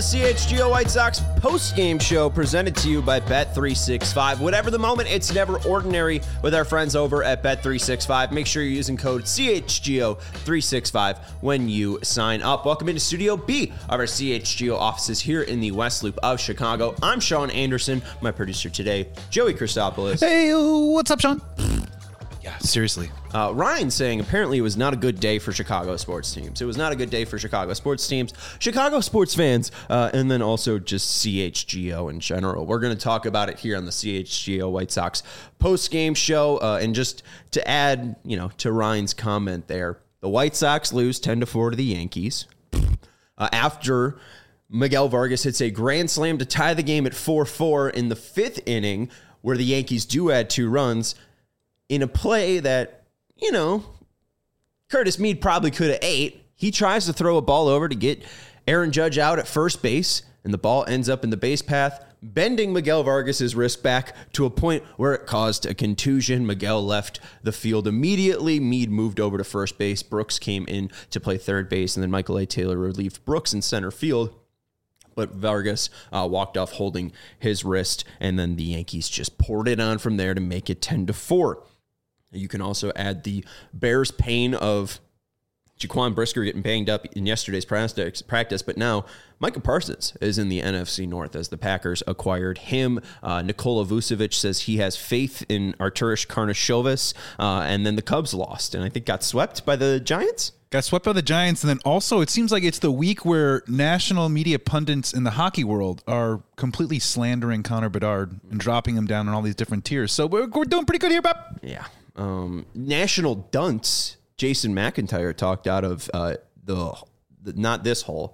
the CHGO White Sox post-game show presented to you by Bet365. Whatever the moment, it's never ordinary with our friends over at Bet365. Make sure you're using code CHGO365 when you sign up. Welcome into Studio B of our CHGO offices here in the West Loop of Chicago. I'm Sean Anderson, my producer today, Joey Christopoulos. Hey, what's up, Sean? Yeah, seriously. Ryan saying apparently it was not a good day for Chicago sports teams. It was not a good day for Chicago sports teams, Chicago sports fans, and then also just CHGO in general. We're going to talk about it here on the CHGO White Sox post-game show. And just to add, to Ryan's comment there, the White Sox lose 10-4 to the Yankees after Miguel Vargas hits a grand slam to tie the game at 4-4 in the fifth inning, where the Yankees do add 2 runs. In a play that, Curtis Mead probably could have ate. He tries to throw a ball over to get Aaron Judge out at first base, and the ball ends up in the base path, bending Miguel Vargas's wrist back to a point where it caused a contusion. Miguel left the field immediately. Mead moved over to first base. Brooks came in to play third base, and then Michael A. Taylor relieved Brooks in center field. But Vargas walked off holding his wrist, and then the Yankees just poured it on from there to make it 10-4. You can also add the Bears' pain of Jaquan Brisker getting banged up in yesterday's practice, but now Micah Parsons is in the NFC North as the Packers acquired him. Nikola Vucevic says he has faith in Arturas Karnisovas, and then the Cubs lost, and I think got swept by the Giants? Got swept by the Giants, and then also it seems like it's the week where national media pundits in the hockey world are completely slandering Connor Bedard and dropping him down on all these different tiers. So we're doing pretty good here, Bob. Yeah. National dunce Jason McIntyre talked out of the not this hole.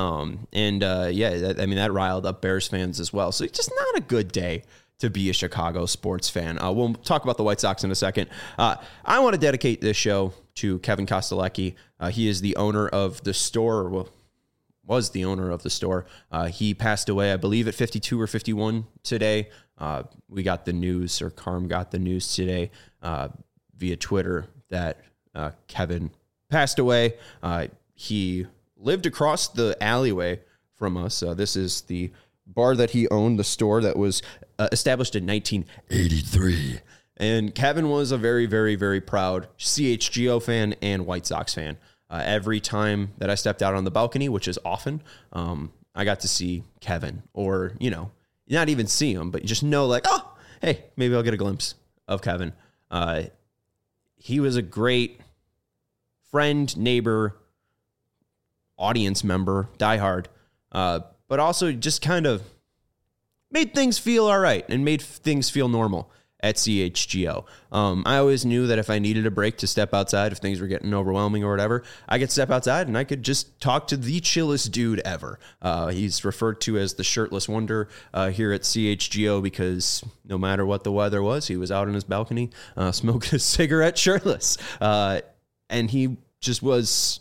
That riled up Bears fans as well. So it's just not a good day to be a Chicago sports fan. We'll talk about the White Sox in a second. I want to dedicate this show to Kevin Kostelecki. He is the owner of the store, was the owner of the store. He passed away, I believe, at 52 or 51 today. We got the news, or Carm got the news today via Twitter that Kevin passed away. He lived across the alleyway from us. This is the bar that he owned, the store that was established in 1983. And Kevin was a very, very, very proud CHGO fan and White Sox fan. Every time that I stepped out on the balcony, which is often, I got to see Kevin, or, not even see him, but you just know, like, oh, hey, maybe I'll get a glimpse of Kevin. He was a great friend, neighbor, audience member, diehard, but also just kind of made things feel all right and made things feel normal at CHGO. I always knew that if I needed a break to step outside, if things were getting overwhelming or whatever, I could step outside and I could just talk to the chillest dude ever. He's referred to as the shirtless wonder here at CHGO because no matter what the weather was, he was out on his balcony smoking a cigarette shirtless. And he just was,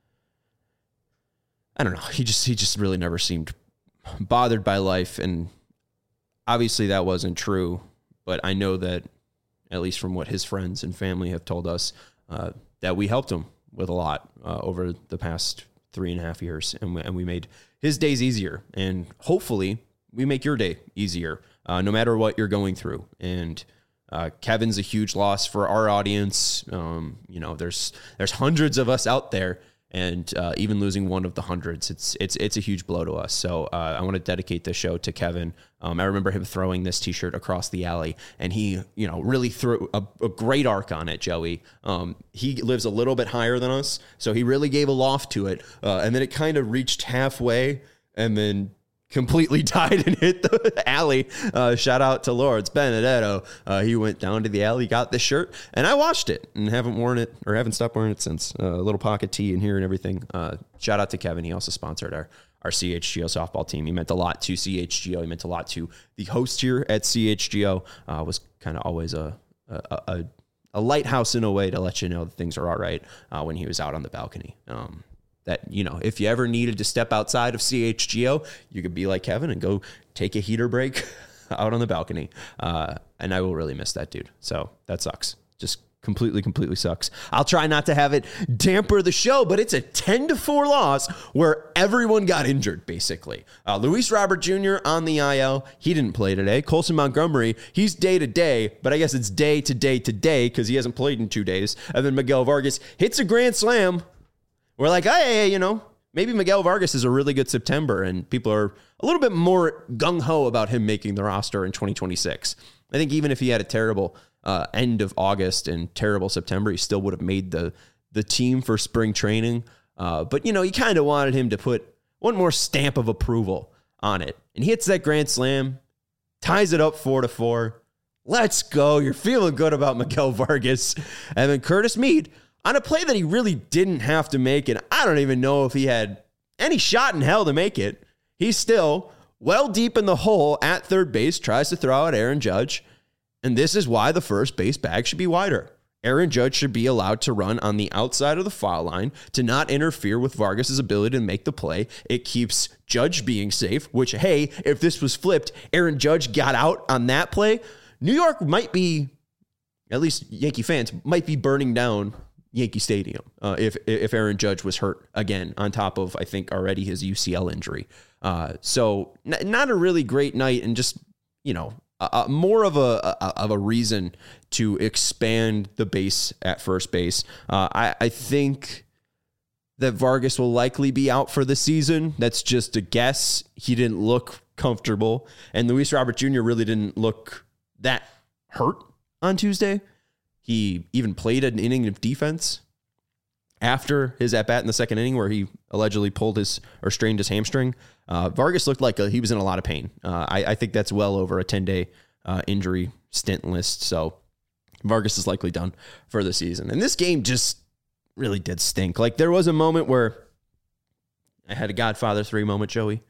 I don't know, he just really never seemed bothered by life. And obviously that wasn't true. But I know that, at least from what his friends and family have told us, that we helped him with a lot over the past 3.5 years. And we made his days easier. And hopefully we make your day easier, no matter what you're going through. And Kevin's a huge loss for our audience. There's hundreds of us out there. And even losing one of the hundreds, it's a huge blow to us. So I want to dedicate this show to Kevin. I remember him throwing this T-shirt across the alley, and he, really threw a great arc on it, Joey. He lives a little bit higher than us, so he really gave a loft to it, and then it kind of reached halfway, and then completely died and hit the alley. Shout out to Lawrence Benedetto. He went down to the alley, got this shirt, and I washed it and haven't worn it, or haven't stopped wearing it since. A little pocket tee in here and everything. Shout out to Kevin. He also sponsored our CHGO softball team. He meant a lot to CHGO. He meant a lot to the host here at CHGO. Was kind of always a lighthouse in a way to let you know that things are all right when he was out on the balcony. That, if you ever needed to step outside of CHGO, you could be like Kevin and go take a heater break out on the balcony. And I will really miss that dude. So that sucks. Just Completely sucks. I'll try not to have it damper the show, but it's a 10-4 loss where everyone got injured, basically. Luis Robert Jr. on the IL. He didn't play today. Colson Montgomery, he's day-to-day, but I guess it's day-to-day because he hasn't played in 2 days. And then Miguel Vargas hits a grand slam. We're like, hey, maybe Miguel Vargas is a really good September, and people are a little bit more gung-ho about him making the roster in 2026. I think even if he had a terrible end of August and terrible September, he still would have made the team for spring training. But, you kind of wanted him to put one more stamp of approval on it. And he hits that grand slam, ties it up 4-4. Let's go. You're feeling good about Miguel Vargas. And then Curtis Mead on a play that he really didn't have to make, and I don't even know if he had any shot in hell to make it. He's still well deep in the hole at third base, tries to throw out Aaron Judge. And this is why the first base bag should be wider. Aaron Judge should be allowed to run on the outside of the foul line to not interfere with Vargas's ability to make the play. It keeps Judge being safe, which, hey, if this was flipped, Aaron Judge got out on that play, New York might be, at least Yankee fans, might be burning down Yankee Stadium if Aaron Judge was hurt again, on top of, I think, already his UCL injury. So not a really great night, and just, more of a reason to expand the base at first base. I think that Vargas will likely be out for the season. That's just a guess. He didn't look comfortable, and Luis Robert Jr. really didn't look that hurt on Tuesday. He even played an inning of defense after his at-bat in the second inning where he allegedly strained his hamstring. Vargas looked like he was in a lot of pain. I think that's well over a 10-day injury stint list. So Vargas is likely done for the season. And this game just really did stink. Like, there was a moment where I had a Godfather 3 moment, Joey.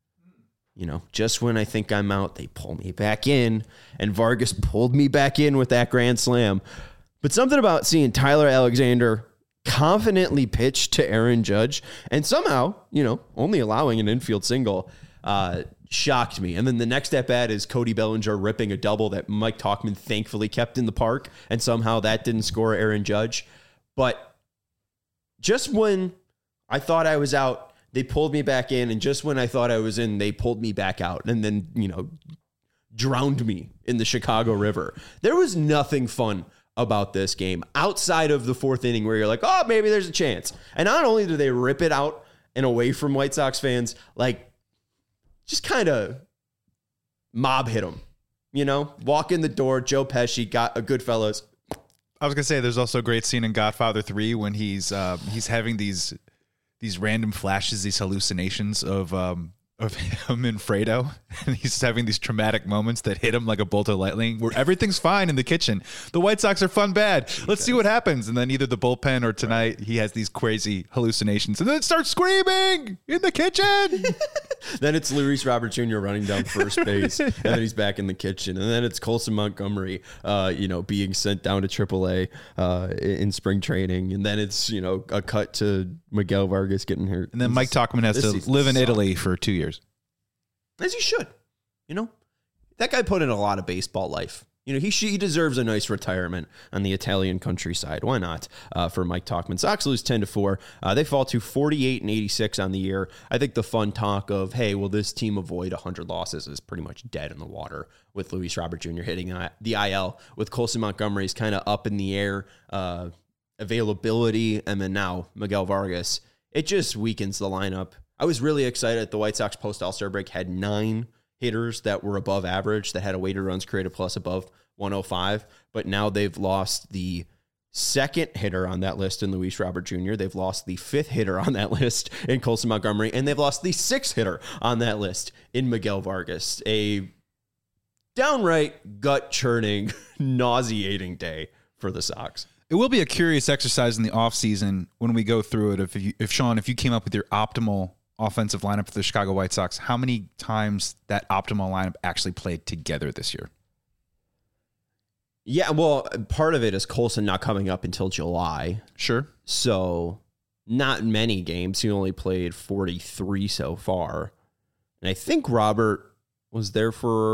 Just when I think I'm out, they pull me back in, and Vargas pulled me back in with that grand slam. But something about seeing Tyler Alexander confidently pitch to Aaron Judge and somehow, only allowing an infield single, shocked me. And then the next at bat is Cody Bellinger ripping a double that Mike Tauchman thankfully kept in the park, and somehow that didn't score Aaron Judge. But just when I thought I was out, they pulled me back in, and just when I thought I was in, they pulled me back out, and then, drowned me in the Chicago River. There was nothing fun about this game outside of the fourth inning where you're like, oh, maybe there's a chance. And not only do they rip it out and away from White Sox fans, like, just kind of mob hit them, walk in the door. Joe Pesci got a Goodfellas. I was going to say, there's also a great scene in Godfather 3 when he's having these random flashes, these hallucinations of him and Fredo, and he's having these traumatic moments that hit him like a bolt of lightning, where everything's fine in the kitchen. The White Sox are fun bad. Let's see what happens. And then either the bullpen or tonight, he has these crazy hallucinations, and then it starts screaming in the kitchen. Then it's Luis Robert Jr. running down first base, and then he's back in the kitchen. And then it's Colson Montgomery, being sent down to AAA in spring training. And then it's, a cut to Miguel Vargas getting hurt. And then Mike Tauchman has to live in Italy for 2 years. As he should. That guy put in a lot of baseball life. He deserves a nice retirement on the Italian countryside. Why not? For Mike Tauchman. Sox lose 10-4. They fall to 48-86 on the year. I think the fun talk of, hey, will this team avoid 100 losses is pretty much dead in the water with Luis Robert Jr. hitting the IL, with Colson Montgomery's kind of up in the air availability, and then now Miguel Vargas. It just weakens the lineup. I was really excited. The White Sox post All-Star break had 9 hitters that were above average, that had a weighted runs created plus above 105, but now they've lost the second hitter on that list in Luis Robert Jr. They've lost the 5th hitter on that list in Colson Montgomery, and they've lost the 6th hitter on that list in Miguel Vargas. A downright gut-churning, nauseating day for the Sox. It will be a curious exercise in the offseason when we go through it. If Sean, if you came up with your optimal offensive lineup for the Chicago White Sox, how many times that optimal lineup actually played together this year? Yeah, well, part of it is Colson not coming up until July. Sure. So not many games. He only played 43 so far. And I think Robert was there for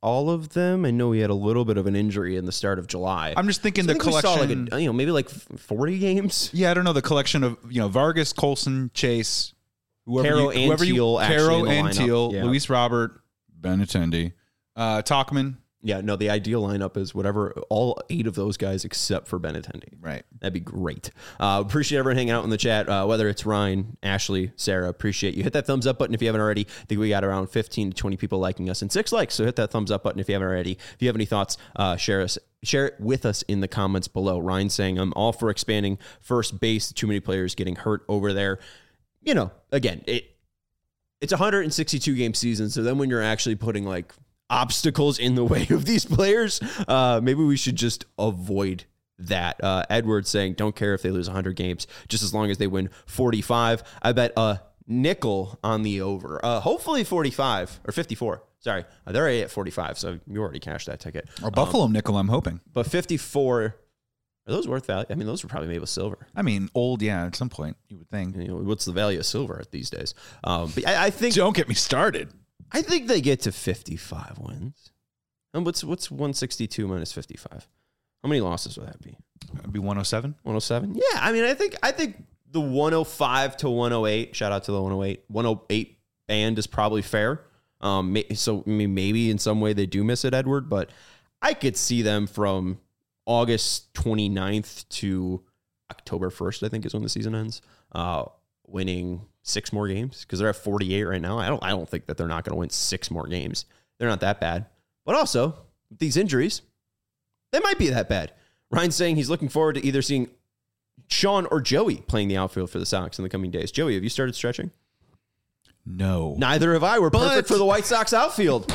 all of them. I know he had a little bit of an injury in the start of July. I'm just thinking the we saw collection. maybe like 40 games. Yeah, I don't know, the collection of Vargas, Colson, Chase, Caro and Teal, yeah. Luis Robert, Benintendi, Tauchman. Yeah, no, the ideal lineup is whatever, all 8 of those guys except for Benintendi. Right. That'd be great. Appreciate everyone hanging out in the chat, whether it's Ryan, Ashley, Sarah. Appreciate you. Hit that thumbs up button if you haven't already. I think we got around 15 to 20 people liking us and 6 likes, so hit that thumbs up button if you haven't already. If you have any thoughts, share it with us in the comments below. Ryan saying, I'm all for expanding first base. Too many players getting hurt over there. Again, it's a 162-game season, so then when you're actually putting like obstacles in the way of these players, maybe we should just avoid that. Edward saying, don't care if they lose 100 games, just as long as they win 45. I bet a nickel on the over. Hopefully 45 or 54. Sorry, they're already at 45, so you already cashed that ticket. Or Buffalo nickel, I'm hoping. But 54, are those worth value? I mean, those were probably made with silver. I mean, old, yeah, at some point, you would think. What's the value of silver these days? But I think... Don't get me started. I think they get to 55 wins. And what's 162 minus 55? How many losses would that be? That'd be 107. 107? Yeah, I mean, I think the 105 to 108, shout out to the 108 band is probably fair. So maybe in some way they do miss it, Edward, but I could see them from August 29th to October 1st, I think is when the season ends, winning 6 more games because they're at 48 right now. I don't think that they're not going to win 6 more games. They're not that bad. But also, these injuries, they might be that bad. Ryan's saying he's looking forward to either seeing Sean or Joey playing the outfield for the Sox in the coming days. Joey, have you started stretching? No. Neither have I. We're perfect for the White Sox outfield.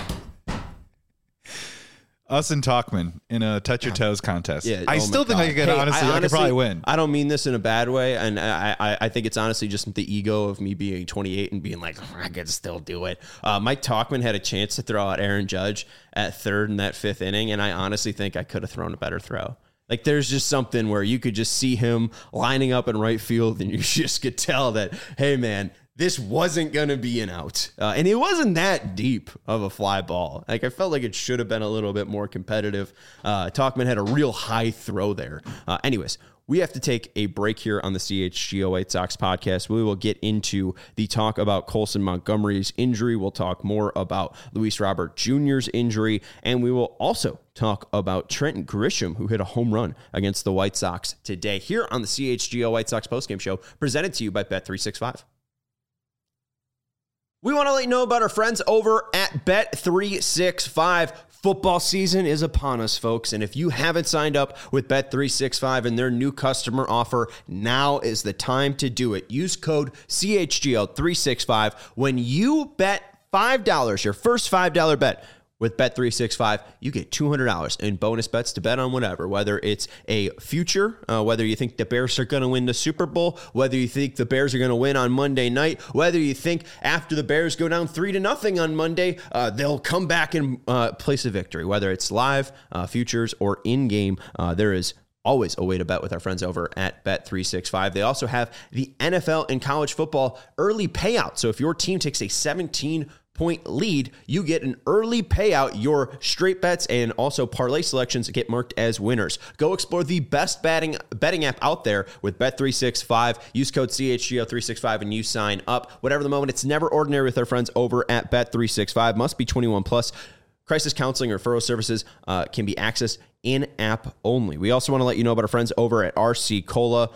Us and Tauchman in a touch your toes contest. Yeah, I still think I could probably win. I don't mean this in a bad way, and I think it's honestly just the ego of me being 28 and being like, I could still do it. Mike Tauchman had a chance to throw out Aaron Judge at third in that 5th inning, and I honestly think I could have thrown a better throw. Like, there's just something where you could just see him lining up in right field, and you just could tell that, hey, man, this wasn't going to be an out. And it wasn't that deep of a fly ball. Like, I felt like it should have been a little bit more competitive. Tauchman had a real high throw there. Anyways, we have to take a break here on the CHGO White Sox podcast. We will get into the talk about Colson Montgomery's injury. We'll talk more about Luis Robert Jr.'s injury. And we will also talk about Trent Grisham, who hit a home run against the White Sox today here on the CHGO White Sox postgame show, presented to you by Bet365. We want to let you know about our friends over at Bet365. Football season is upon us, folks, and if you haven't signed up with Bet365 and their new customer offer, now is the time to do it. Use code CHGO365 when you bet $5, your first $5 bet. With Bet365, you get $200 in bonus bets to bet on whatever, whether it's a future, whether you think the Bears are going to win the Super Bowl, whether you think the Bears are going to win on Monday night, whether you think after the Bears go down 3-0 on Monday, they'll come back and place a victory, whether it's live, futures, or in-game. There is always a way to bet with our friends over at Bet365. They also have the NFL and college football early payout. So if your team takes a 17-point lead, you get an early payout. Your straight bets and also parlay selections get marked as winners. Go explore the best betting app out there with Bet365. Use code CHGO365 and you sign up. Whatever the moment, it's never ordinary with our friends over at Bet365. Must be 21 plus. Crisis counseling or referral services can be accessed in-app only. We also want to let you know about our friends over at RC Cola.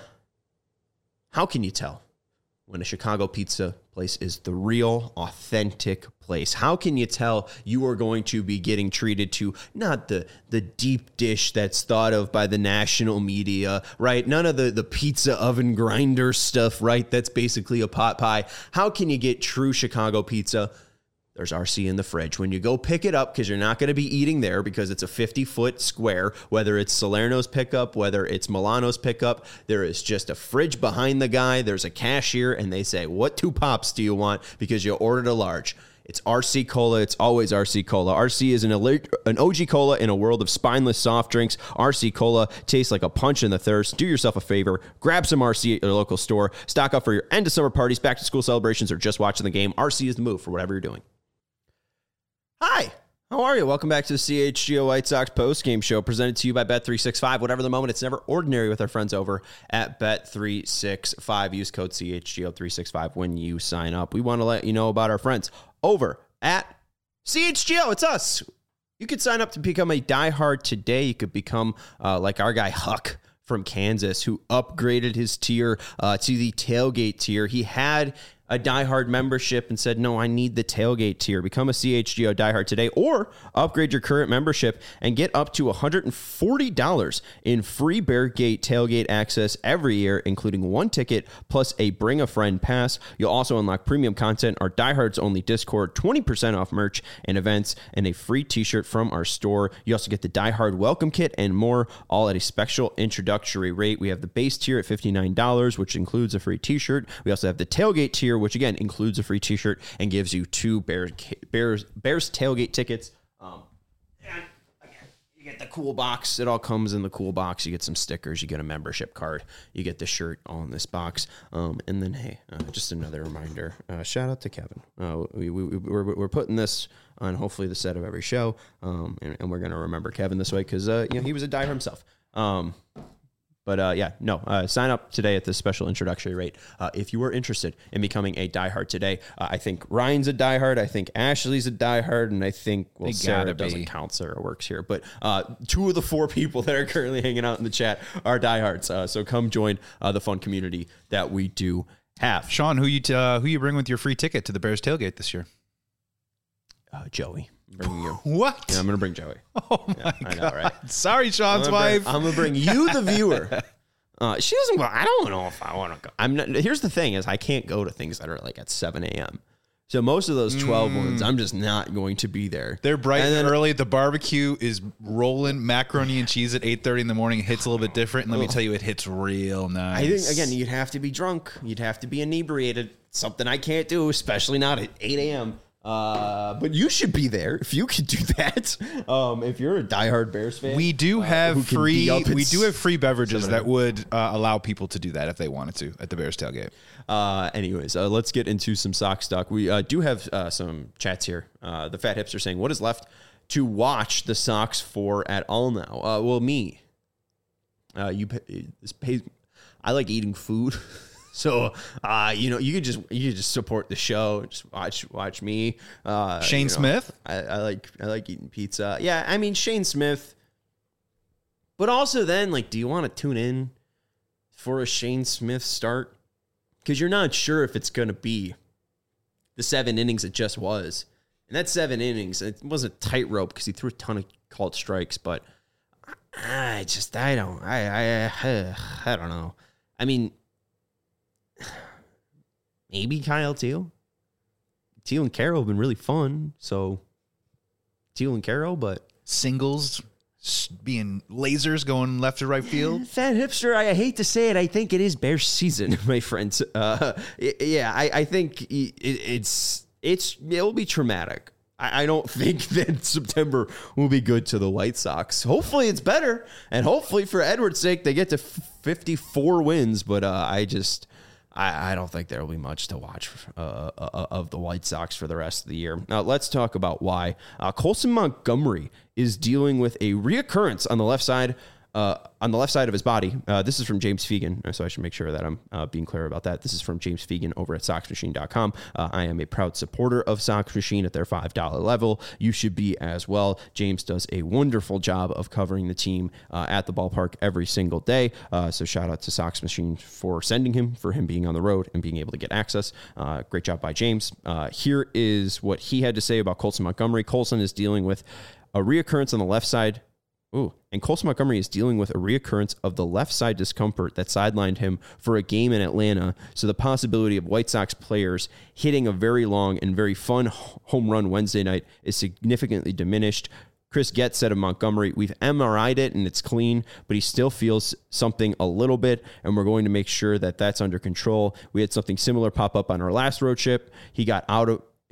How can you tell when a Chicago pizza place is the real, authentic place? How can you tell you are going to be getting treated to not the deep dish that's thought of by the national media, right? None of the pizza oven grinder stuff, right? That's basically a pot pie. How can you get true Chicago pizza? There's RC in the fridge. When you go pick it up, because you're not going to be eating there because it's a 50-foot square, whether it's Salerno's pickup, whether it's Milano's pickup, there is just a fridge behind the guy. There's a cashier, and they say, what 2 pops do you want? Because you ordered a large. It's RC Cola. It's always RC Cola. RC is an OG Cola in a world of spineless soft drinks. RC Cola tastes like a punch in the thirst. Do yourself a favor. Grab some RC at your local store. Stock up for your end of summer parties, back to school celebrations, or just watching the game. RC is the move for whatever you're doing. Hi, How are you? Welcome back to the CHGO White Sox postgame show presented to you by Bet365. Whatever the moment, it's never ordinary with our friends over at Bet365. Use code CHGO365 when you sign up. We want to let you know about our friends over at CHGO. It's us. You could sign up to become a diehard today. You could become like our guy Huck from Kansas, who upgraded his tier to the tailgate tier. He had a diehard membership and said, no, I need the tailgate tier. Become a CHGO diehard today, or upgrade your current membership and get up to $140 in free Bear Gate tailgate access every year, including one ticket plus a bring a friend pass. You'll also unlock premium content, our diehards only Discord, 20% off merch and events, and a free t-shirt from our store. You also get the diehard welcome kit and more, all at a special introductory rate. We have the base tier at $59, which includes a free t-shirt. We also have the tailgate tier, which again includes a free t-shirt and gives you 2 Bears tailgate tickets. And again, you get the cool box. It all comes in the cool box. You get some stickers. You get a membership card. You get the shirt all in this box. And then, hey, just another reminder. Shout out to Kevin. We're putting this on hopefully the set of every show, and we're gonna remember Kevin this way because he was a diehard himself. Sign up today at this special introductory rate if you are interested in becoming a diehard today. I think Ryan's a diehard. I think Ashley's a diehard. And I think, Sarah doesn't count. Sarah works here. But 2 of the 4 people that are currently hanging out in the chat are diehards. So come join the fun community that we do have. Sean, who you bring with your free ticket to the Bears tailgate this year? Joey. Bringing you. What? Yeah, I'm going to bring Joey. Oh, my God. I know, right? Sorry, Sean's wife. I'm going to bring you, the viewer. She doesn't go, I don't know if I want to go. Here's the thing is I can't go to things that are like at 7 a.m. So most of those 12 ones, I'm just not going to be there. They're bright and early. The barbecue is rolling macaroni and cheese at 8:30 in the morning. It hits a little bit different. And let me tell you, it hits real nice. I think, again, you'd have to be drunk. You'd have to be inebriated. Something I can't do, especially not at 8 a.m. But you should be there if you could do that. If you're a diehard Bears fan, we do have free beverages that would allow people to do that if they wanted to at the Bears tailgate. Anyways, let's get into some Sox talk. We do have some chats here. The Fat Hipster saying, "What is left to watch the Sox for at all now?" Well, me. I like eating food. So, you could just support the show. Just watch me. Shane Smith. I like eating pizza. Yeah, I mean Shane Smith. But also then, do you want to tune in for a Shane Smith start? Because you're not sure if it's going to be the 7 innings it just was. And that 7 innings, it was a tightrope because he threw a ton of called strikes. But I don't know. I mean, maybe Kyle Teal. Teal and Carroll have been really fun. So Teal and Carroll, but singles being lasers going left to right field. Fat Hipster, I hate to say it. I think it is Bears season, my friends. I think it'll be traumatic. I don't think that September will be good to the White Sox. Hopefully it's better. And hopefully for Edwards' sake, they get to 54 wins. But I don't think there will be much to watch of the White Sox for the rest of the year. Now, let's talk about why. Colson Montgomery is dealing with a reoccurrence on the left side of his body. This is from James Fegan, so I should make sure that I'm being clear about that. This is from James Fegan over at SoxMachine.com. I am a proud supporter of Sox Machine at their $5 level. You should be as well. James does a wonderful job of covering the team at the ballpark every single day. So shout out to Sox Machine for sending him, for him being on the road and being able to get access. Great job by James. Here is what he had to say about Colson Montgomery. Colson is dealing with a reoccurrence on the left side. And Colson Montgomery is dealing with a reoccurrence of the left side discomfort that sidelined him for a game in Atlanta. So the possibility of White Sox players hitting a very long and very fun home run Wednesday night is significantly diminished. Chris Getz said of Montgomery, we've MRI'd it and it's clean, but he still feels something a little bit, and we're going to make sure that that's under control. We had something similar pop up on our last road trip. He got out of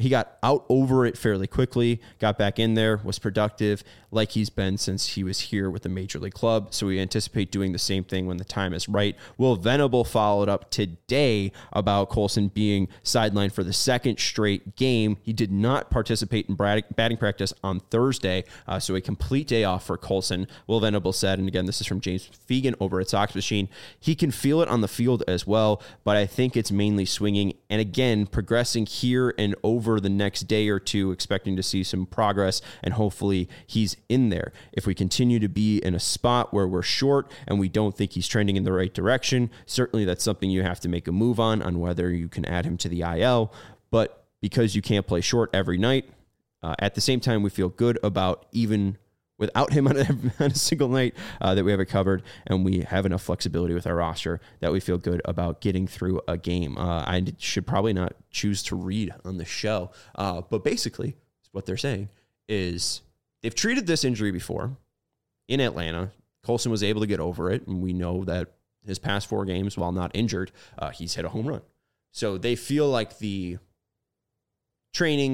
he got out over it fairly quickly, got back in there, was productive like he's been since he was here with the Major League club. So we anticipate doing the same thing when the time is right. Will Venable followed up today about Colson being sidelined for the second straight game. He did not participate in batting practice on Thursday, so a complete day off for Colson. Will Venable said, and again, this is from James Fegan over at Sox Machine, he can feel it on the field as well, but I think it's mainly swinging. And again, progressing here and over the next day or two, expecting to see some progress, and hopefully he's in there. If we continue to be in a spot where we're short and we don't think he's trending in the right direction, certainly that's something you have to make a move on whether you can add him to the IL. But because you can't play short every night, at the same time, we feel good about even without him on a single night that we have it covered, and we have enough flexibility with our roster that we feel good about getting through a game. I should probably not choose to read on the show, but basically what they're saying is they've treated this injury before in Atlanta. Colson was able to get over it, and we know that his past 4 games, while not injured, he's hit a home run. So they feel like the training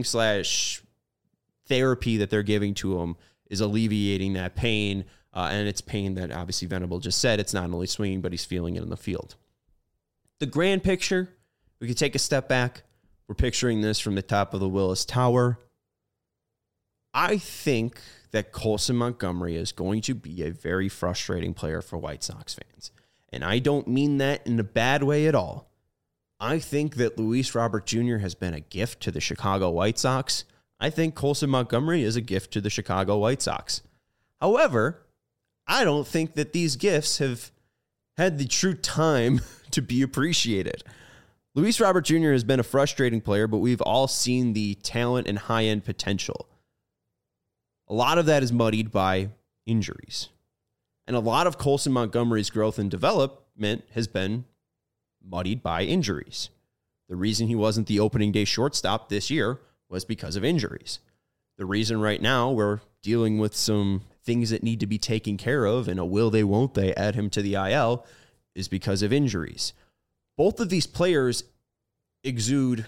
/ therapy that they're giving to him is alleviating that pain, and it's pain that obviously Venable just said it's not only swinging, but he's feeling it in the field. The grand picture, we could take a step back. We're picturing this from the top of the Willis Tower. I think that Colson Montgomery is going to be a very frustrating player for White Sox fans, and I don't mean that in a bad way at all. I think that Luis Robert Jr. has been a gift to the Chicago White Sox. I think Colson Montgomery is a gift to the Chicago White Sox. However, I don't think that these gifts have had the true time to be appreciated. Luis Robert Jr. has been a frustrating player, but we've all seen the talent and high-end potential. A lot of that is muddied by injuries. And a lot of Colson Montgomery's growth and development has been muddied by injuries. The reason he wasn't the opening day shortstop this year was because of injuries. The reason right now we're dealing with some things that need to be taken care of and a will they, won't they add him to the IL is because of injuries. Both of these players exude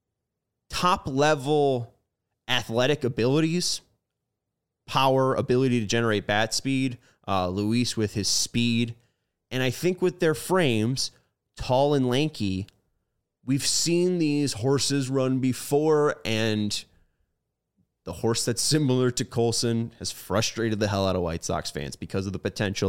top-level athletic abilities, power, ability to generate bat speed, Luis with his speed, and I think with their frames, tall and lanky, we've seen these horses run before, and the horse that's similar to Colson has frustrated the hell out of White Sox fans because of the potential.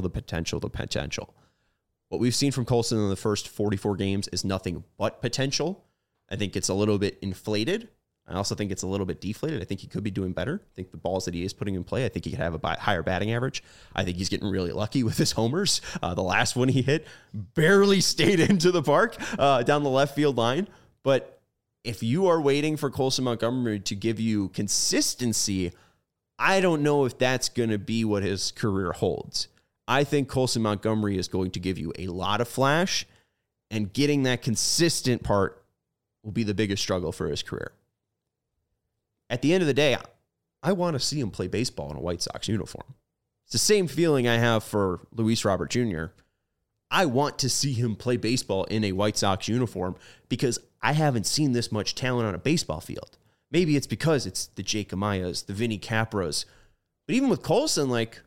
What we've seen from Colson in the first 44 games is nothing but potential. I think it's a little bit inflated. I also think it's a little bit deflated. I think he could be doing better. I think the balls that he is putting in play, I think he could have a higher batting average. I think he's getting really lucky with his homers. The last one he hit barely stayed into the park down the left field line. But if you are waiting for Colson Montgomery to give you consistency, I don't know if that's going to be what his career holds. I think Colson Montgomery is going to give you a lot of flash, and getting that consistent part will be the biggest struggle for his career. At the end of the day, I want to see him play baseball in a White Sox uniform. It's the same feeling I have for Luis Robert Jr. I want to see him play baseball in a White Sox uniform because I haven't seen this much talent on a baseball field. Maybe it's because it's the Jake Amayas, the Vinny Capras. But even with Colson, like,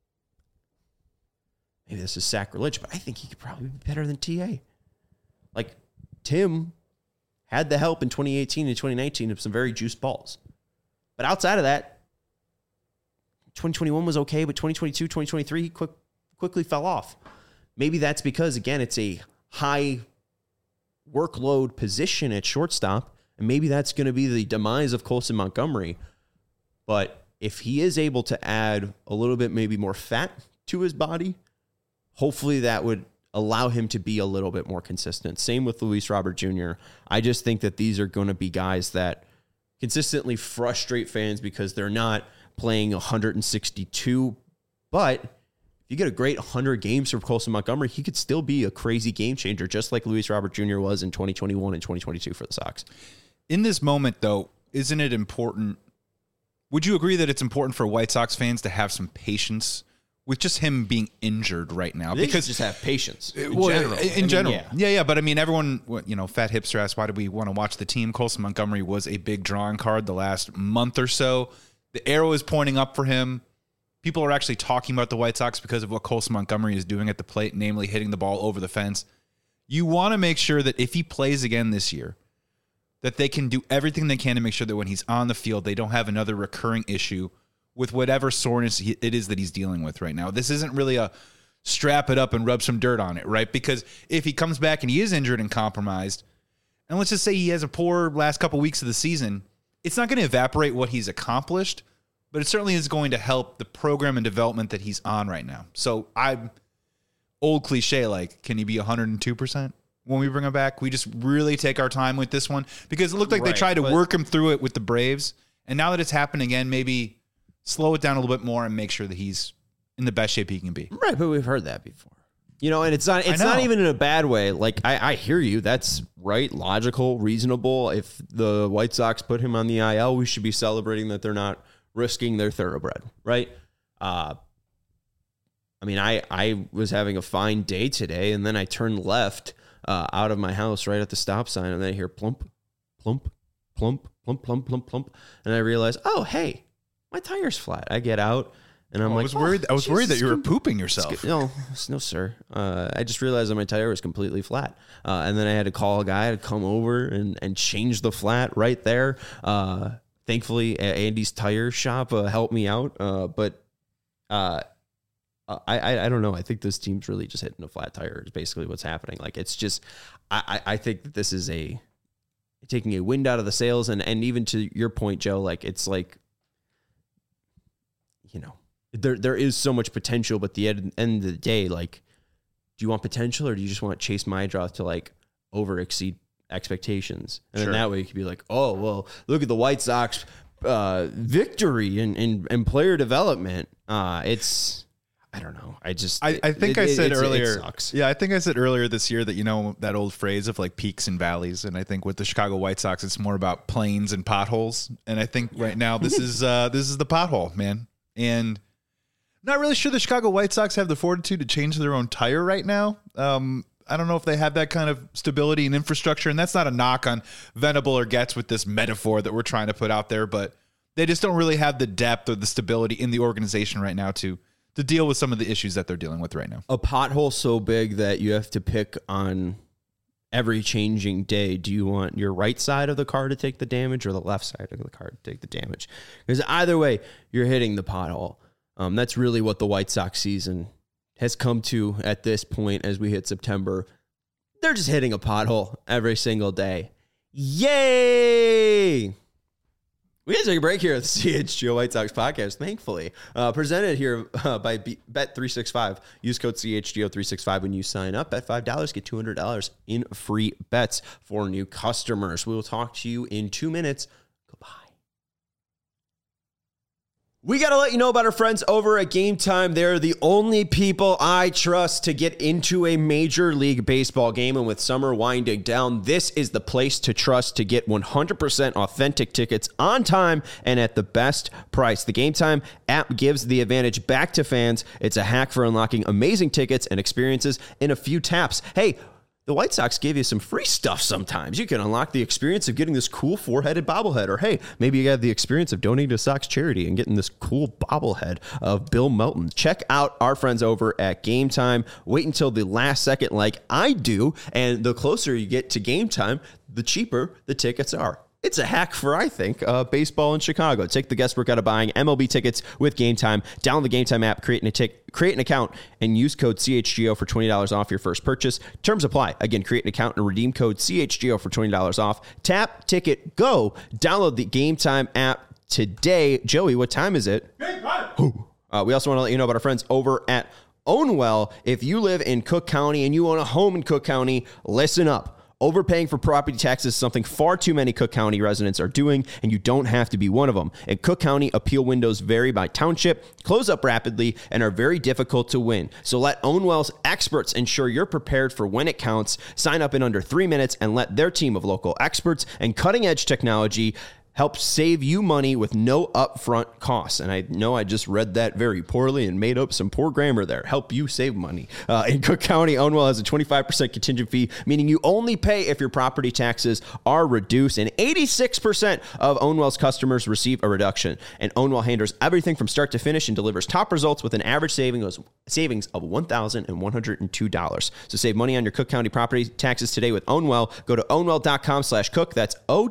maybe this is sacrilege, but I think he could probably be better than TA. Like, Tim had the help in 2018 and 2019 of some very juiced balls. But outside of that, 2021 was okay, but 2022, 2023, he quickly fell off. Maybe that's because, again, it's a high workload position at shortstop, and maybe that's going to be the demise of Colson Montgomery. But if he is able to add a little bit, maybe more fat to his body, hopefully that would allow him to be a little bit more consistent. Same with Luis Robert Jr. I just think that these are going to be guys that consistently frustrate fans because they're not playing 162. But if you get a great 100 games from Colson Montgomery, he could still be a crazy game changer, just like Luis Robert Jr. was in 2021 and 2022 for the Sox. In this moment, though, isn't it important? Would you agree that it's important for White Sox fans to have some patience with just him being injured right now. They because just have patience in general. Yeah. Yeah. But I mean, everyone, Fat Hipster asked, why do we want to watch the team? Colson Montgomery was a big drawing card the last month or so. The arrow is pointing up for him. People are actually talking about the White Sox because of what Colson Montgomery is doing at the plate, namely hitting the ball over the fence. You want to make sure that if he plays again this year, that they can do everything they can to make sure that when he's on the field, they don't have another recurring issue with whatever soreness it is that he's dealing with right now. This isn't really a strap it up and rub some dirt on it, right? Because if he comes back and he is injured and compromised, and let's just say he has a poor last couple weeks of the season, it's not going to evaporate what he's accomplished, but it certainly is going to help the program and development that he's on right now. So I'm old cliche, like, can he be 102%? When we bring him back, we just really take our time with this one because it looked like they tried to work him through it with the Braves. And now that it's happened again, maybe slow it down a little bit more and make sure that he's in the best shape he can be. Right, but we've heard that before. And it's not even in a bad way. Like, I hear you. That's right, logical, reasonable. If the White Sox put him on the IL, we should be celebrating that they're not risking their thoroughbred, right? I was having a fine day today, and then I turned left out of my house right at the stop sign, and then I hear plump, plump, plump, plump, plump, plump, plump, and I realize, oh, hey, my tire's flat. I get out, and I'm like, I was worried that you were pooping yourself. No, sir. I just realized that my tire was completely flat, and then I had to call a guy to come over and change the flat right there. Thankfully, Andy's tire shop helped me out, but I don't know. I think this team's really just hitting a flat tire is basically what's happening. Like, it's just, I think that this is taking a wind out of the sails. And even to your point, Joe, like, it's like, there is so much potential, but at the end of the day, like, do you want potential or do you just want Chase Maedroth to like over exceed expectations? And then that way you could be like, oh, well, look at the White Sox victory and player development. I don't know. I think I said earlier. Yeah, I think I said earlier this year that that old phrase of like peaks and valleys, and I think with the Chicago White Sox, it's more about plains and potholes. And I think right now this is the pothole, man. And not really sure the Chicago White Sox have the fortitude to change their own tire right now. I don't know if they have that kind of stability and infrastructure, and that's not a knock on Venable or Getz with this metaphor that we're trying to put out there, but they just don't really have the depth or the stability in the organization right now to deal with some of the issues that they're dealing with right now. A pothole so big that you have to pick on every changing day. Do you want your right side of the car to take the damage or the left side of the car to take the damage? Because either way, you're hitting the pothole. That's really what the White Sox season has come to at this point as we hit September. They're just hitting a pothole every single day. Yay! We got to take a break here at the CHGO White Sox podcast, thankfully. Presented here by Bet365. Use code CHGO365 when you sign up. Bet $5, get $200 in free bets for new customers. We will talk to you in 2 minutes. Goodbye. We got to let you know about our friends over at Game Time. They're the only people I trust to get into a Major League Baseball game. And with summer winding down, this is the place to trust to get 100% authentic tickets on time and at the best price. The Game Time app gives the advantage back to fans. It's a hack for unlocking amazing tickets and experiences in a few taps. Hey, the White Sox give you some free stuff sometimes. You can unlock the experience of getting this cool four-headed bobblehead. Or, hey, maybe you have the experience of donating to Sox charity and getting this cool bobblehead of Bill Melton. Check out our friends over at Game Time. Wait until the last second like I do. And the closer you get to Game Time, the cheaper the tickets are. It's a hack for, I think, baseball in Chicago. Take the guesswork out of buying MLB tickets with Game Time. Download the Game Time app, create an account, and use code CHGO for $20 off your first purchase. Terms apply. Again, create an account and redeem code CHGO for $20 off. Tap, ticket, go. Download the Game Time app today. Joey, what time is it? Game time. We also want to let you know about our friends over at Ownwell. If you live in Cook County and you own a home in Cook County, listen up. Overpaying for property taxes is something far too many Cook County residents are doing, and you don't have to be one of them. In Cook County, appeal windows vary by township, close up rapidly, and are very difficult to win. So let Ownwell's experts ensure you're prepared for when it counts. Sign up in under 3 minutes and let their team of local experts and cutting-edge technology helps save you money with no upfront costs. And I know I just read that very poorly and made up some poor grammar there. Help you save money. In Cook County, Ownwell has a 25% contingent fee, meaning you only pay if your property taxes are reduced. And 86% of Ownwell's customers receive a reduction. And Ownwell handles everything from start to finish and delivers top results with an average savings of $1,102. So save money on your Cook County property taxes today with Ownwell. Go to ownwell.com/cook. That's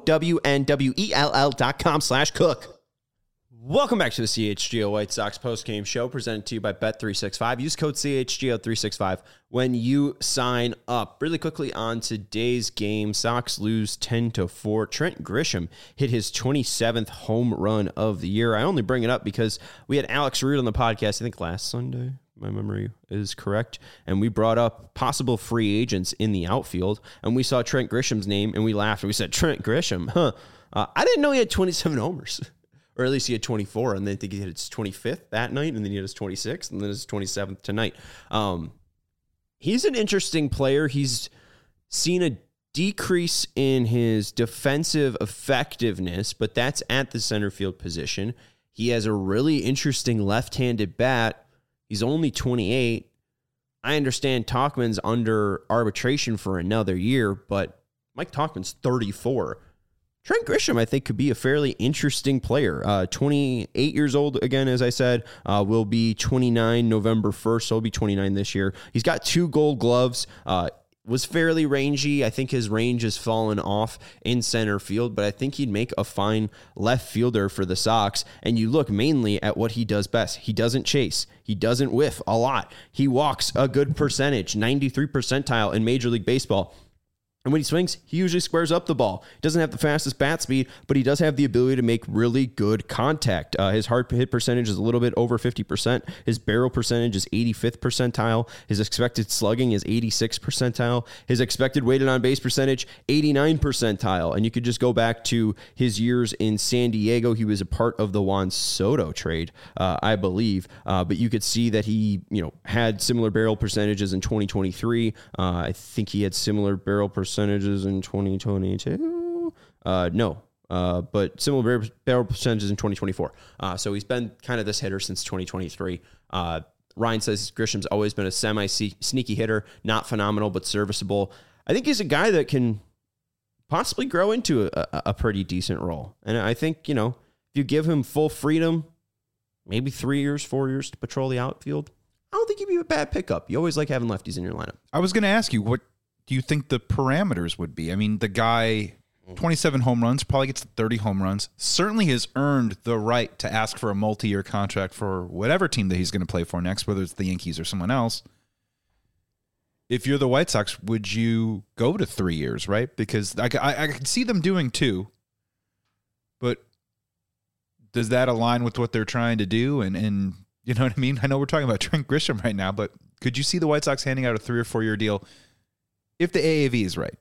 OWNWELL.com/cook. Welcome back to the CHGO White Sox postgame show presented to you by Bet365. Use code CHGO365 when you sign up. Really quickly on today's game, Sox lose 10-4. Trent Grisham hit his 27th home run of the year. I only bring it up because we had Alex Root on the podcast, I think last Sunday. My memory is correct. And we brought up possible free agents in the outfield. And we saw Trent Grisham's name and we laughed. And we said, Trent Grisham, huh? I didn't know he had 27 homers. Or at least he had 24. And then I think he hit his 25th that night. And then he had his 26th. And then his 27th tonight. He's an interesting player. He's seen a decrease in his defensive effectiveness. But that's at the center field position. He has a really interesting left-handed bat. He's only 28. I understand Tauchman's under arbitration for another year, but Mike Tauchman's 34. Trent Grisham, I think, could be a fairly interesting player. 28 years old, again, as I said, will be 29 November 1st, so he'll be 29 this year. He's got 2 gold gloves. Was fairly rangy. I think his range has fallen off in center field, but I think he'd make a fine left fielder for the Sox. And you look mainly at what he does best. He doesn't chase. He doesn't whiff a lot. He walks a good percentage, 93 percentile in Major League Baseball. And when he swings, he usually squares up the ball. He doesn't have the fastest bat speed, but he does have the ability to make really good contact. His hard hit percentage is a little bit over 50%. His barrel percentage is 85th percentile. His expected slugging is 86th percentile. His expected weighted on base percentage, 89 percentile. And you could just go back to his years in San Diego. He was a part of the Juan Soto trade, I believe. But you could see that he, had similar barrel percentages in 2023. I think he had similar barrel percentages in 2022. But similar barrel percentages in 2024. So he's been kind of this hitter since 2023. Ryan says Grisham's always been a semi-sneaky hitter, not phenomenal, but serviceable. I think he's a guy that can possibly grow into a pretty decent role. And I think, if you give him full freedom, maybe 3 years, 4 years to patrol the outfield, I don't think he'd be a bad pickup. You always like having lefties in your lineup. I was going to ask you, what do you think the parameters would be? I mean, the guy, 27 home runs, probably gets 30 home runs, certainly has earned the right to ask for a multi-year contract for whatever team that he's going to play for next, whether it's the Yankees or someone else. If you're the White Sox, would you go to 3 years, right? Because I could see them doing 2, but does that align with what they're trying to do? And you know what I mean? I know we're talking about Trent Grisham right now, but could you see the White Sox handing out a 3 or 4 year deal if the AAV is right?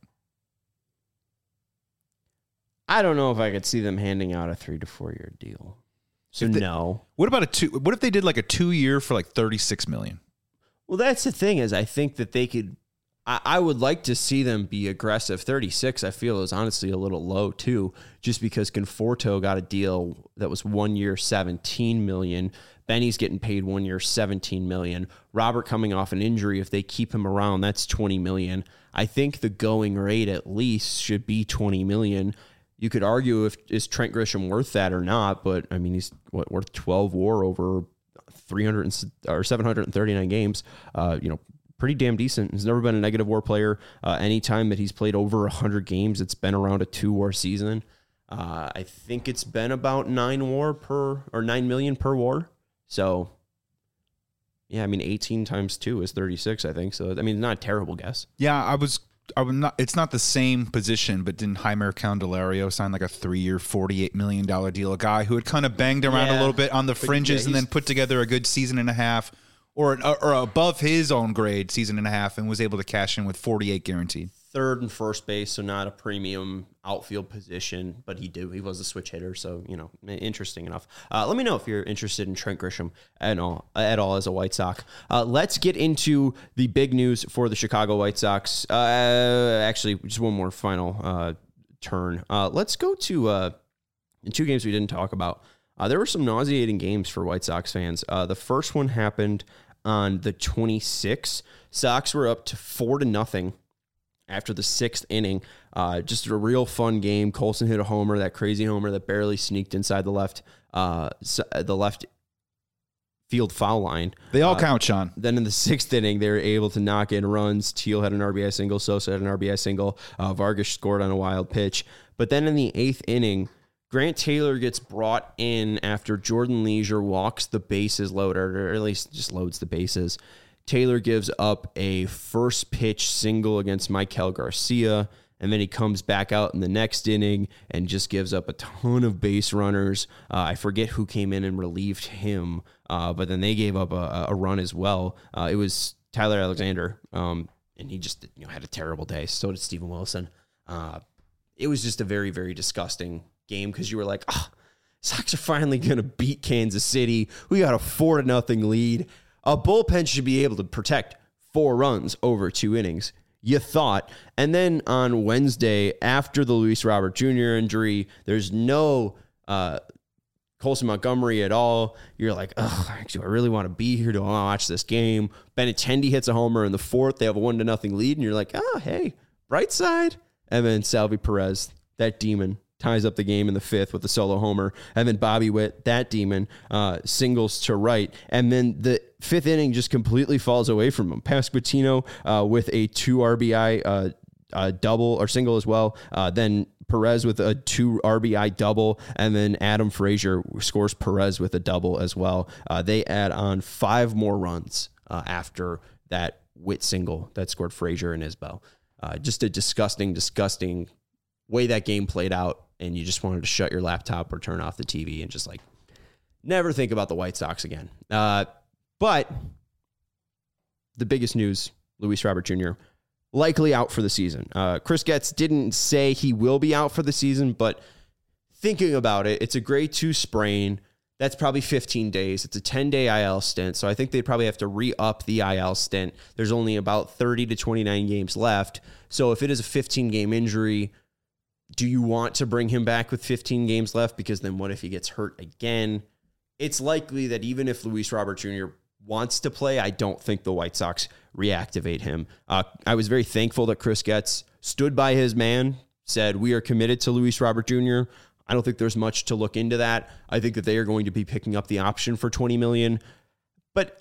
I don't know if I could see them handing out a 3 to 4 year deal. So no. What about what if they did like a 2 year for like $36 million? Well, that's the thing is I think that they could. I would like to see them be aggressive. 36, I feel, is honestly a little low too, just because Conforto got a deal that was 1 year, $17 million. Benny's getting paid 1 year, $17 million. Robert coming off an injury, if they keep him around, that's $20 million. I think the going rate at least should be $20 million. You could argue is Trent Grisham worth that or not, but I mean he's worth 12 WAR over 739 games. Pretty damn decent. He's never been a negative WAR player. Anytime that he's played over 100 games, it's been around a 2 WAR season. I think it's been about 9 million per WAR. So, yeah, I mean, 18 times 2 is 36, I think. So, I mean, not a terrible guess. Yeah, I would not. It's not the same position, but didn't Jeimer Candelario sign like a 3 year, $48 million deal? A guy who had kind of banged around a little bit on the fringes and then put together a good season and a half, or above his own grade season and a half, and was able to cash in with 48 guaranteed. Third and first base, so not a premium outfield position, but he was a switch hitter, so interesting enough. Let me know if you're interested in Trent Grisham at all as a White Sox. Let's get into the big news for the Chicago White Sox. Actually, just one more final turn. Let's go to in two games we didn't talk about, there were some nauseating games for White Sox fans. The first one happened on the 26th. Sox were up to 4-0 after the sixth inning. Just a real fun game. Colson hit a homer, that crazy homer that barely sneaked inside the left field foul line. They all count, Sean. Then in the sixth inning, they were able to knock in runs. Teal had an RBI single. Sosa had an RBI single. Vargas scored on a wild pitch. But then in the eighth inning, Grant Taylor gets brought in after Jordan Leisure walks the bases loaded, or at least just loads the bases. Taylor gives up a first pitch single against Michael Garcia, and then he comes back out in the next inning and just gives up a ton of base runners. I forget who came in and relieved him, but then they gave up a run as well. It was Tyler Alexander, and he just had a terrible day. So did Steven Wilson. It was just a very, very disgusting game because you were like, Sox are finally going to beat Kansas City. We got a 4-0 lead. A bullpen should be able to protect 4 runs over 2 innings, you thought. And then on Wednesday, after the Luis Robert Jr. injury, there's no Colson Montgomery at all. You're like, actually, I really want to be here to watch this game. Benintendi hits a homer in the 4th. They have a 1-0 lead, and you're like, hey, bright side. And then Salvi Perez, that demon, ties up the game in the 5th with a solo homer. And then Bobby Witt, that demon, singles to right. And then the 5th inning just completely falls away from him. Pasquantino with a 2 RBI double or single as well. Then Perez with a 2 RBI double. And then Adam Frazier scores Perez with a double as well. They add on 5 more runs after that Witt single that scored Frazier and Isbell. Just a disgusting way that game played out. And you just wanted to shut your laptop or turn off the TV and just never think about the White Sox again. But the biggest news, Luis Robert Jr., likely out for the season. Chris Getz didn't say he will be out for the season, but thinking about it, it's a grade 2 sprain. That's probably 15 days. It's a 10-day IL stint, so I think they'd probably have to re-up the IL stint. There's only about 30 to 29 games left. So if it is a 15-game injury, do you want to bring him back with 15 games left? Because then what if he gets hurt again? It's likely that even if Luis Robert Jr. wants to play, I don't think the White Sox reactivate him. I was very thankful that Chris Getz stood by his man, said, we are committed to Luis Robert Jr. I don't think there's much to look into that. I think that they are going to be picking up the option for $20 million. But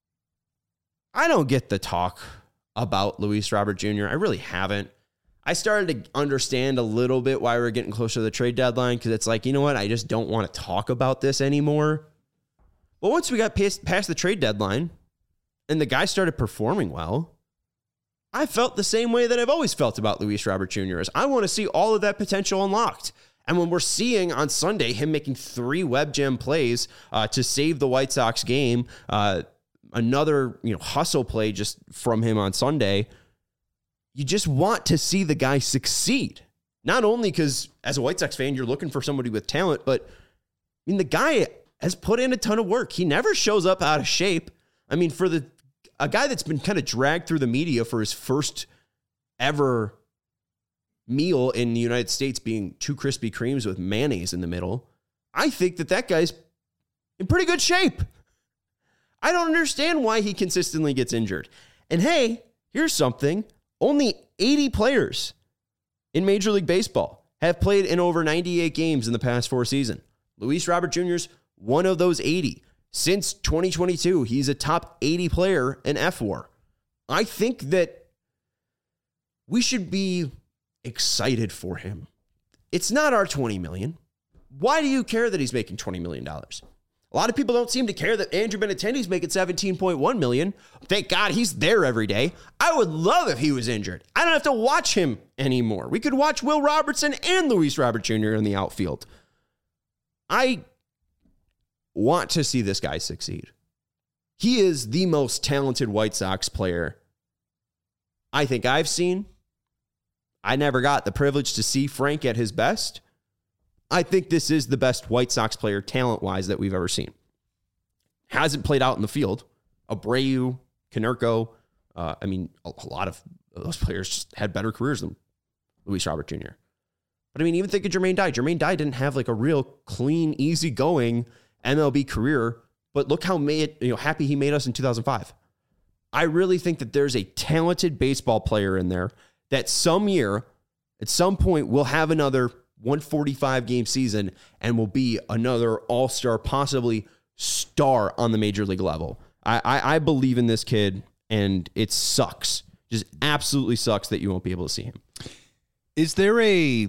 I don't get the talk about Luis Robert Jr. I really haven't. I started to understand a little bit why we're getting closer to the trade deadline, because it's like, you know what? I just don't want to talk about this anymore. But once we got past the trade deadline and the guy started performing well, I felt the same way that I've always felt about Luis Robert Jr. is I want to see all of that potential unlocked. And when we're seeing on Sunday him making 3 web gem plays to save the White Sox game, another hustle play just from him on Sunday, you just want to see the guy succeed. Not only because as a White Sox fan, you're looking for somebody with talent, but the guy has put in a ton of work. He never shows up out of shape. For a guy that's been kind of dragged through the media for his first ever meal in the United States being 2 Krispy Kremes with mayonnaise in the middle, I think that guy's in pretty good shape. I don't understand why he consistently gets injured. And hey, here's something. Only 80 players in Major League Baseball have played in over 98 games in the past 4 seasons. Luis Robert Jr.'s one of those 80. Since 2022, he's a top 80 player in FWAR. I think that we should be excited for him. It's not our $20 million. Why do you care that he's making $20 million? A lot of people don't seem to care that Andrew Benintendi's making $17.1 million. Thank God he's there every day. I would love if he was injured. I don't have to watch him anymore. We could watch Will Robertson and Luis Robert Jr. in the outfield. I want to see this guy succeed. He is the most talented White Sox player I think I've seen. I never got the privilege to see Frank at his best. I think this is the best White Sox player talent-wise that we've ever seen. Hasn't played out in the field. Abreu, Konerko, a lot of those players just had better careers than Luis Robert Jr. But I mean, even think of Jermaine Dye. Jermaine Dye didn't have like a real clean, easygoing MLB career, but look how happy he made us in 2005. I really think that there's a talented baseball player in there that some year, at some point, will have another 145 game season and will be another all-star, possibly star on the major league level. I believe in this kid, and it sucks. Just absolutely sucks that you won't be able to see him. Is there a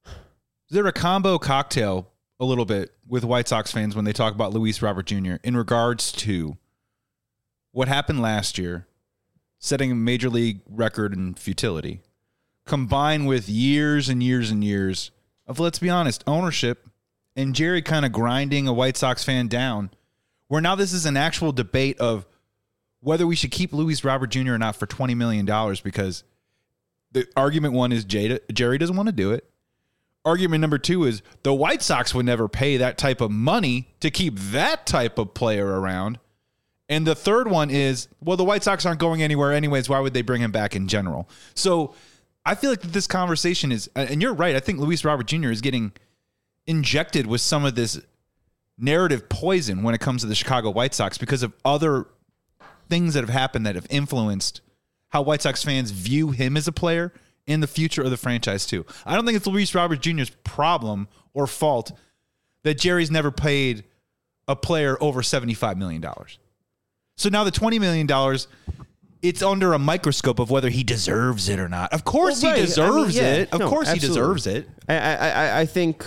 combo cocktail a little bit with White Sox fans when they talk about Luis Robert Jr. in regards to what happened last year, setting a major league record in futility, combined with years and years and years of, let's be honest, ownership and Jerry kind of grinding a White Sox fan down, where now this is an actual debate of whether we should keep Luis Robert Jr. or not for $20 million, because the argument one is Jerry doesn't want to do it. Argument number two is the White Sox would never pay that type of money to keep that type of player around. And the third one is, well, the White Sox aren't going anywhere anyways. Why would they bring him back in general? So I feel like this conversation is, and you're right, I think Luis Robert Jr. is getting injected with some of this narrative poison when it comes to the Chicago White Sox because of other things that have happened that have influenced how White Sox fans view him as a player in the future of the franchise too. I don't think it's Luis Robert Jr.'s problem or fault that Jerry's never paid a player over $75 million. So now the $20 million, it's under a microscope of whether he deserves it or not. Of course he deserves it. Of course he deserves it. I think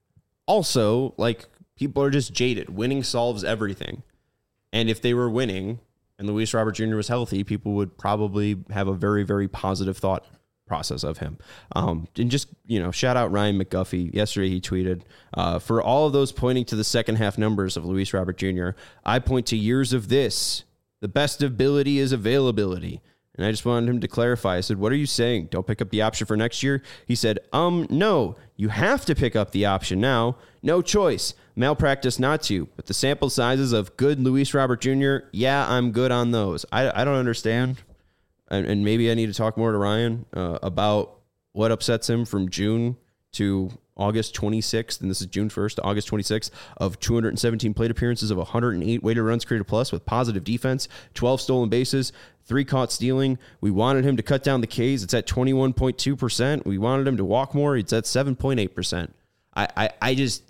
also, like, people are just jaded. Winning solves everything. And if they were winning and Luis Robert Jr. was healthy, people would probably have a very, very positive thought process of him. And just, shout out Ryan McGuffey. Yesterday he tweeted, for all of those pointing to the second half numbers of Luis Robert Jr., I point to years of this. The best ability is availability. And I just wanted him to clarify. I said, what are you saying? Don't pick up the option for next year? He said, no, you have to pick up the option now. No choice. Malpractice not to. But the sample sizes of good Luis Robert Jr., yeah, I'm good on those. I don't understand. And maybe I need to talk more to Ryan about what upsets him from June to August 26th, and this is June 1st to August 26th, of 217 plate appearances of 108 weighted runs created plus with positive defense, 12 stolen bases, 3 caught stealing. We wanted him to cut down the Ks. It's at 21.2%. We wanted him to walk more. It's at 7.8%. I just,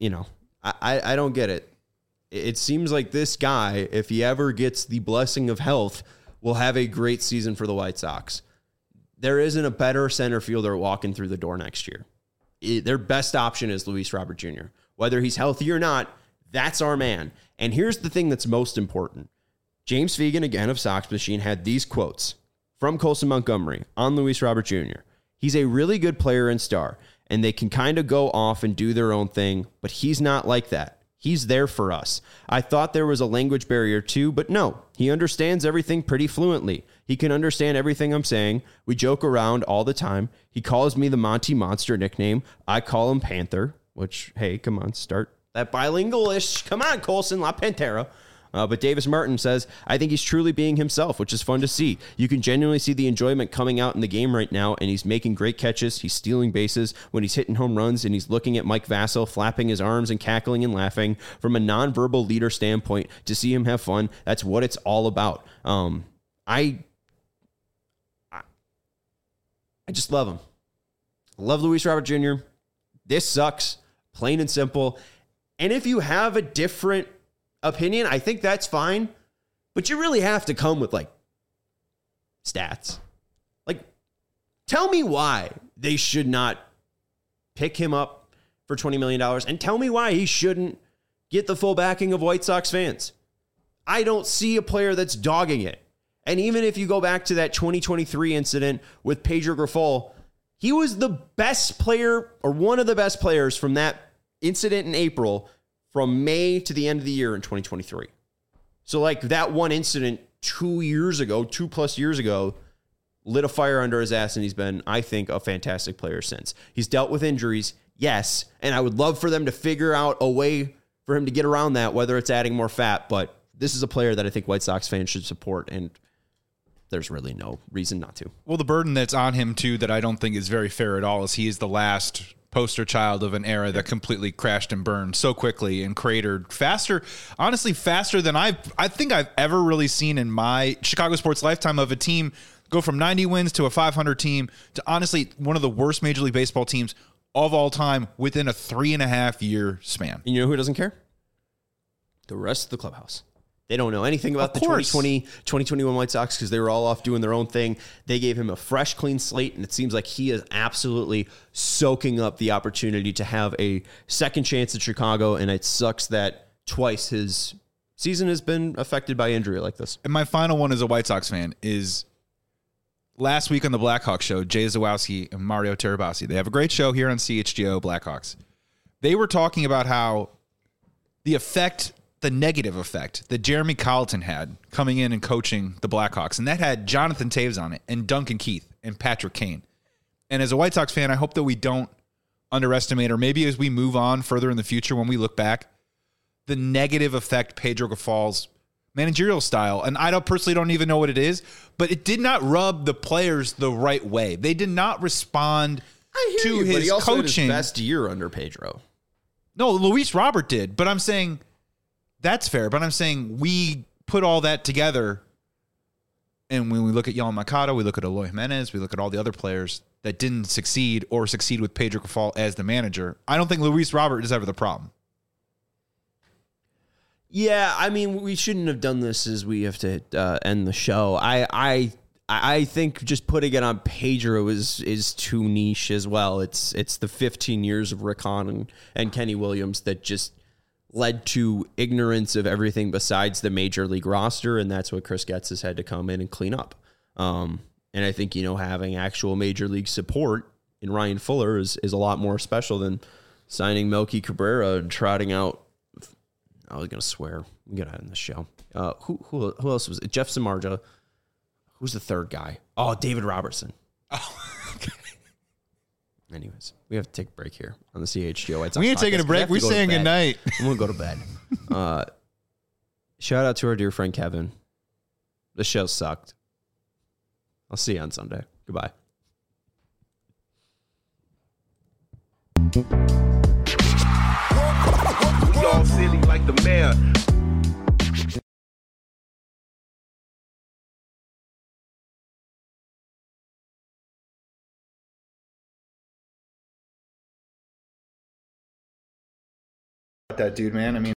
I don't get it. It seems like this guy, if he ever gets the blessing of health, will have a great season for the White Sox. There isn't a better center fielder walking through the door next year. Their best option is Luis Robert Jr. Whether he's healthy or not, that's our man. And here's the thing that's most important. James Fegan, again of Sox Machine, had these quotes from Colson Montgomery on Luis Robert Jr. He's a really good player and star, and they can kind of go off and do their own thing, but he's not like that. He's there for us. I thought there was a language barrier too, but no, he understands everything pretty fluently. He can understand everything I'm saying. We joke around all the time. He calls me the Monty Monster nickname. I call him Panther, which, hey, come on, start that bilingual-ish. Come on, Colson, La Pantera. But Davis Martin says, I think he's truly being himself, which is fun to see. You can genuinely see the enjoyment coming out in the game right now, and he's making great catches. He's stealing bases when he's hitting home runs, and he's looking at Mike Vasil, flapping his arms and cackling and laughing. From a nonverbal leader standpoint, to see him have fun, that's what it's all about. I just love him. I love Luis Robert Jr. This sucks, plain and simple. And if you have a different opinion, I think that's fine, but you really have to come with like stats. Like, tell me why they should not pick him up for $20 million and tell me why he shouldn't get the full backing of White Sox fans. I don't see a player that's dogging it. And even if you go back to that 2023 incident with Pedro Grifol, he was the best player or one of the best players from that incident in April from May to the end of the year in 2023. So like that one incident 2 plus years ago, lit a fire under his ass, and he's been, I think, a fantastic player since. He's dealt with injuries, yes, and I would love for them to figure out a way for him to get around that, whether it's adding more fat, but this is a player that I think White Sox fans should support, and there's really no reason not to. Well, the burden that's on him, too, that I don't think is very fair at all, is he is the last poster child of an era that completely crashed and burned so quickly and cratered faster, honestly, faster than I think I've ever really seen in my Chicago sports lifetime, of a team go from 90 wins to a 500 team to honestly one of the worst Major League Baseball teams of all time within a 3.5 year span. And you know who doesn't care? The rest of the clubhouse. They don't know anything about the 2021 White Sox because they were all off doing their own thing. They gave him a fresh, clean slate, and it seems like he is absolutely soaking up the opportunity to have a second chance at Chicago, and it sucks that twice his season has been affected by injury like this. And my final one as a White Sox fan is last week on the Blackhawks show, Jay Zawowski and Mario Terabasi. They have a great show here on CHGO Blackhawks. They were talking about how the negative effect that Jeremy Colleton had coming in and coaching the Blackhawks. And that had Jonathan Toews on it and Duncan Keith and Patrick Kane. And as a White Sox fan, I hope that we don't underestimate, or maybe as we move on further in the future, when we look back, the negative effect Pedro Gaffal's managerial style. And I personally don't even know what it is, but it did not rub the players the right way. They did not respond to his but he also coaching. had his best year under Pedro. No, Luis Robert did, but I'm saying that's fair. But I'm saying we put all that together, and when we look at Yohan Moncada, we look at Eloy Jimenez, we look at all the other players that didn't succeed or succeed with Pedro Gaffal as the manager. I don't think Luis Robert is ever the problem. Yeah, I mean, we shouldn't have done this as we have to end the show. I think just putting it on Pedro is too niche as well. It's the 15 years of Rick Hahn and Kenny Williams that just led to ignorance of everything besides the major league roster, and that's what Chris Getz has had to come in and clean up. And I think, having actual major league support in Ryan Fuller is a lot more special than signing Melky Cabrera and trotting out. I was going to swear. We got to end the show. Who else was it? Jeff Samardzija. Who's the third guy? Oh, David Robertson. Oh, okay. Anyways, we have to take a break here on the CHGO White Sox We ain't taking a break. We're saying goodnight. I'm going to go to bed. Shout out to our dear friend Kevin. The show sucked. I'll see you on Sunday. Goodbye. We all silly like the mayor. That dude, man. I mean,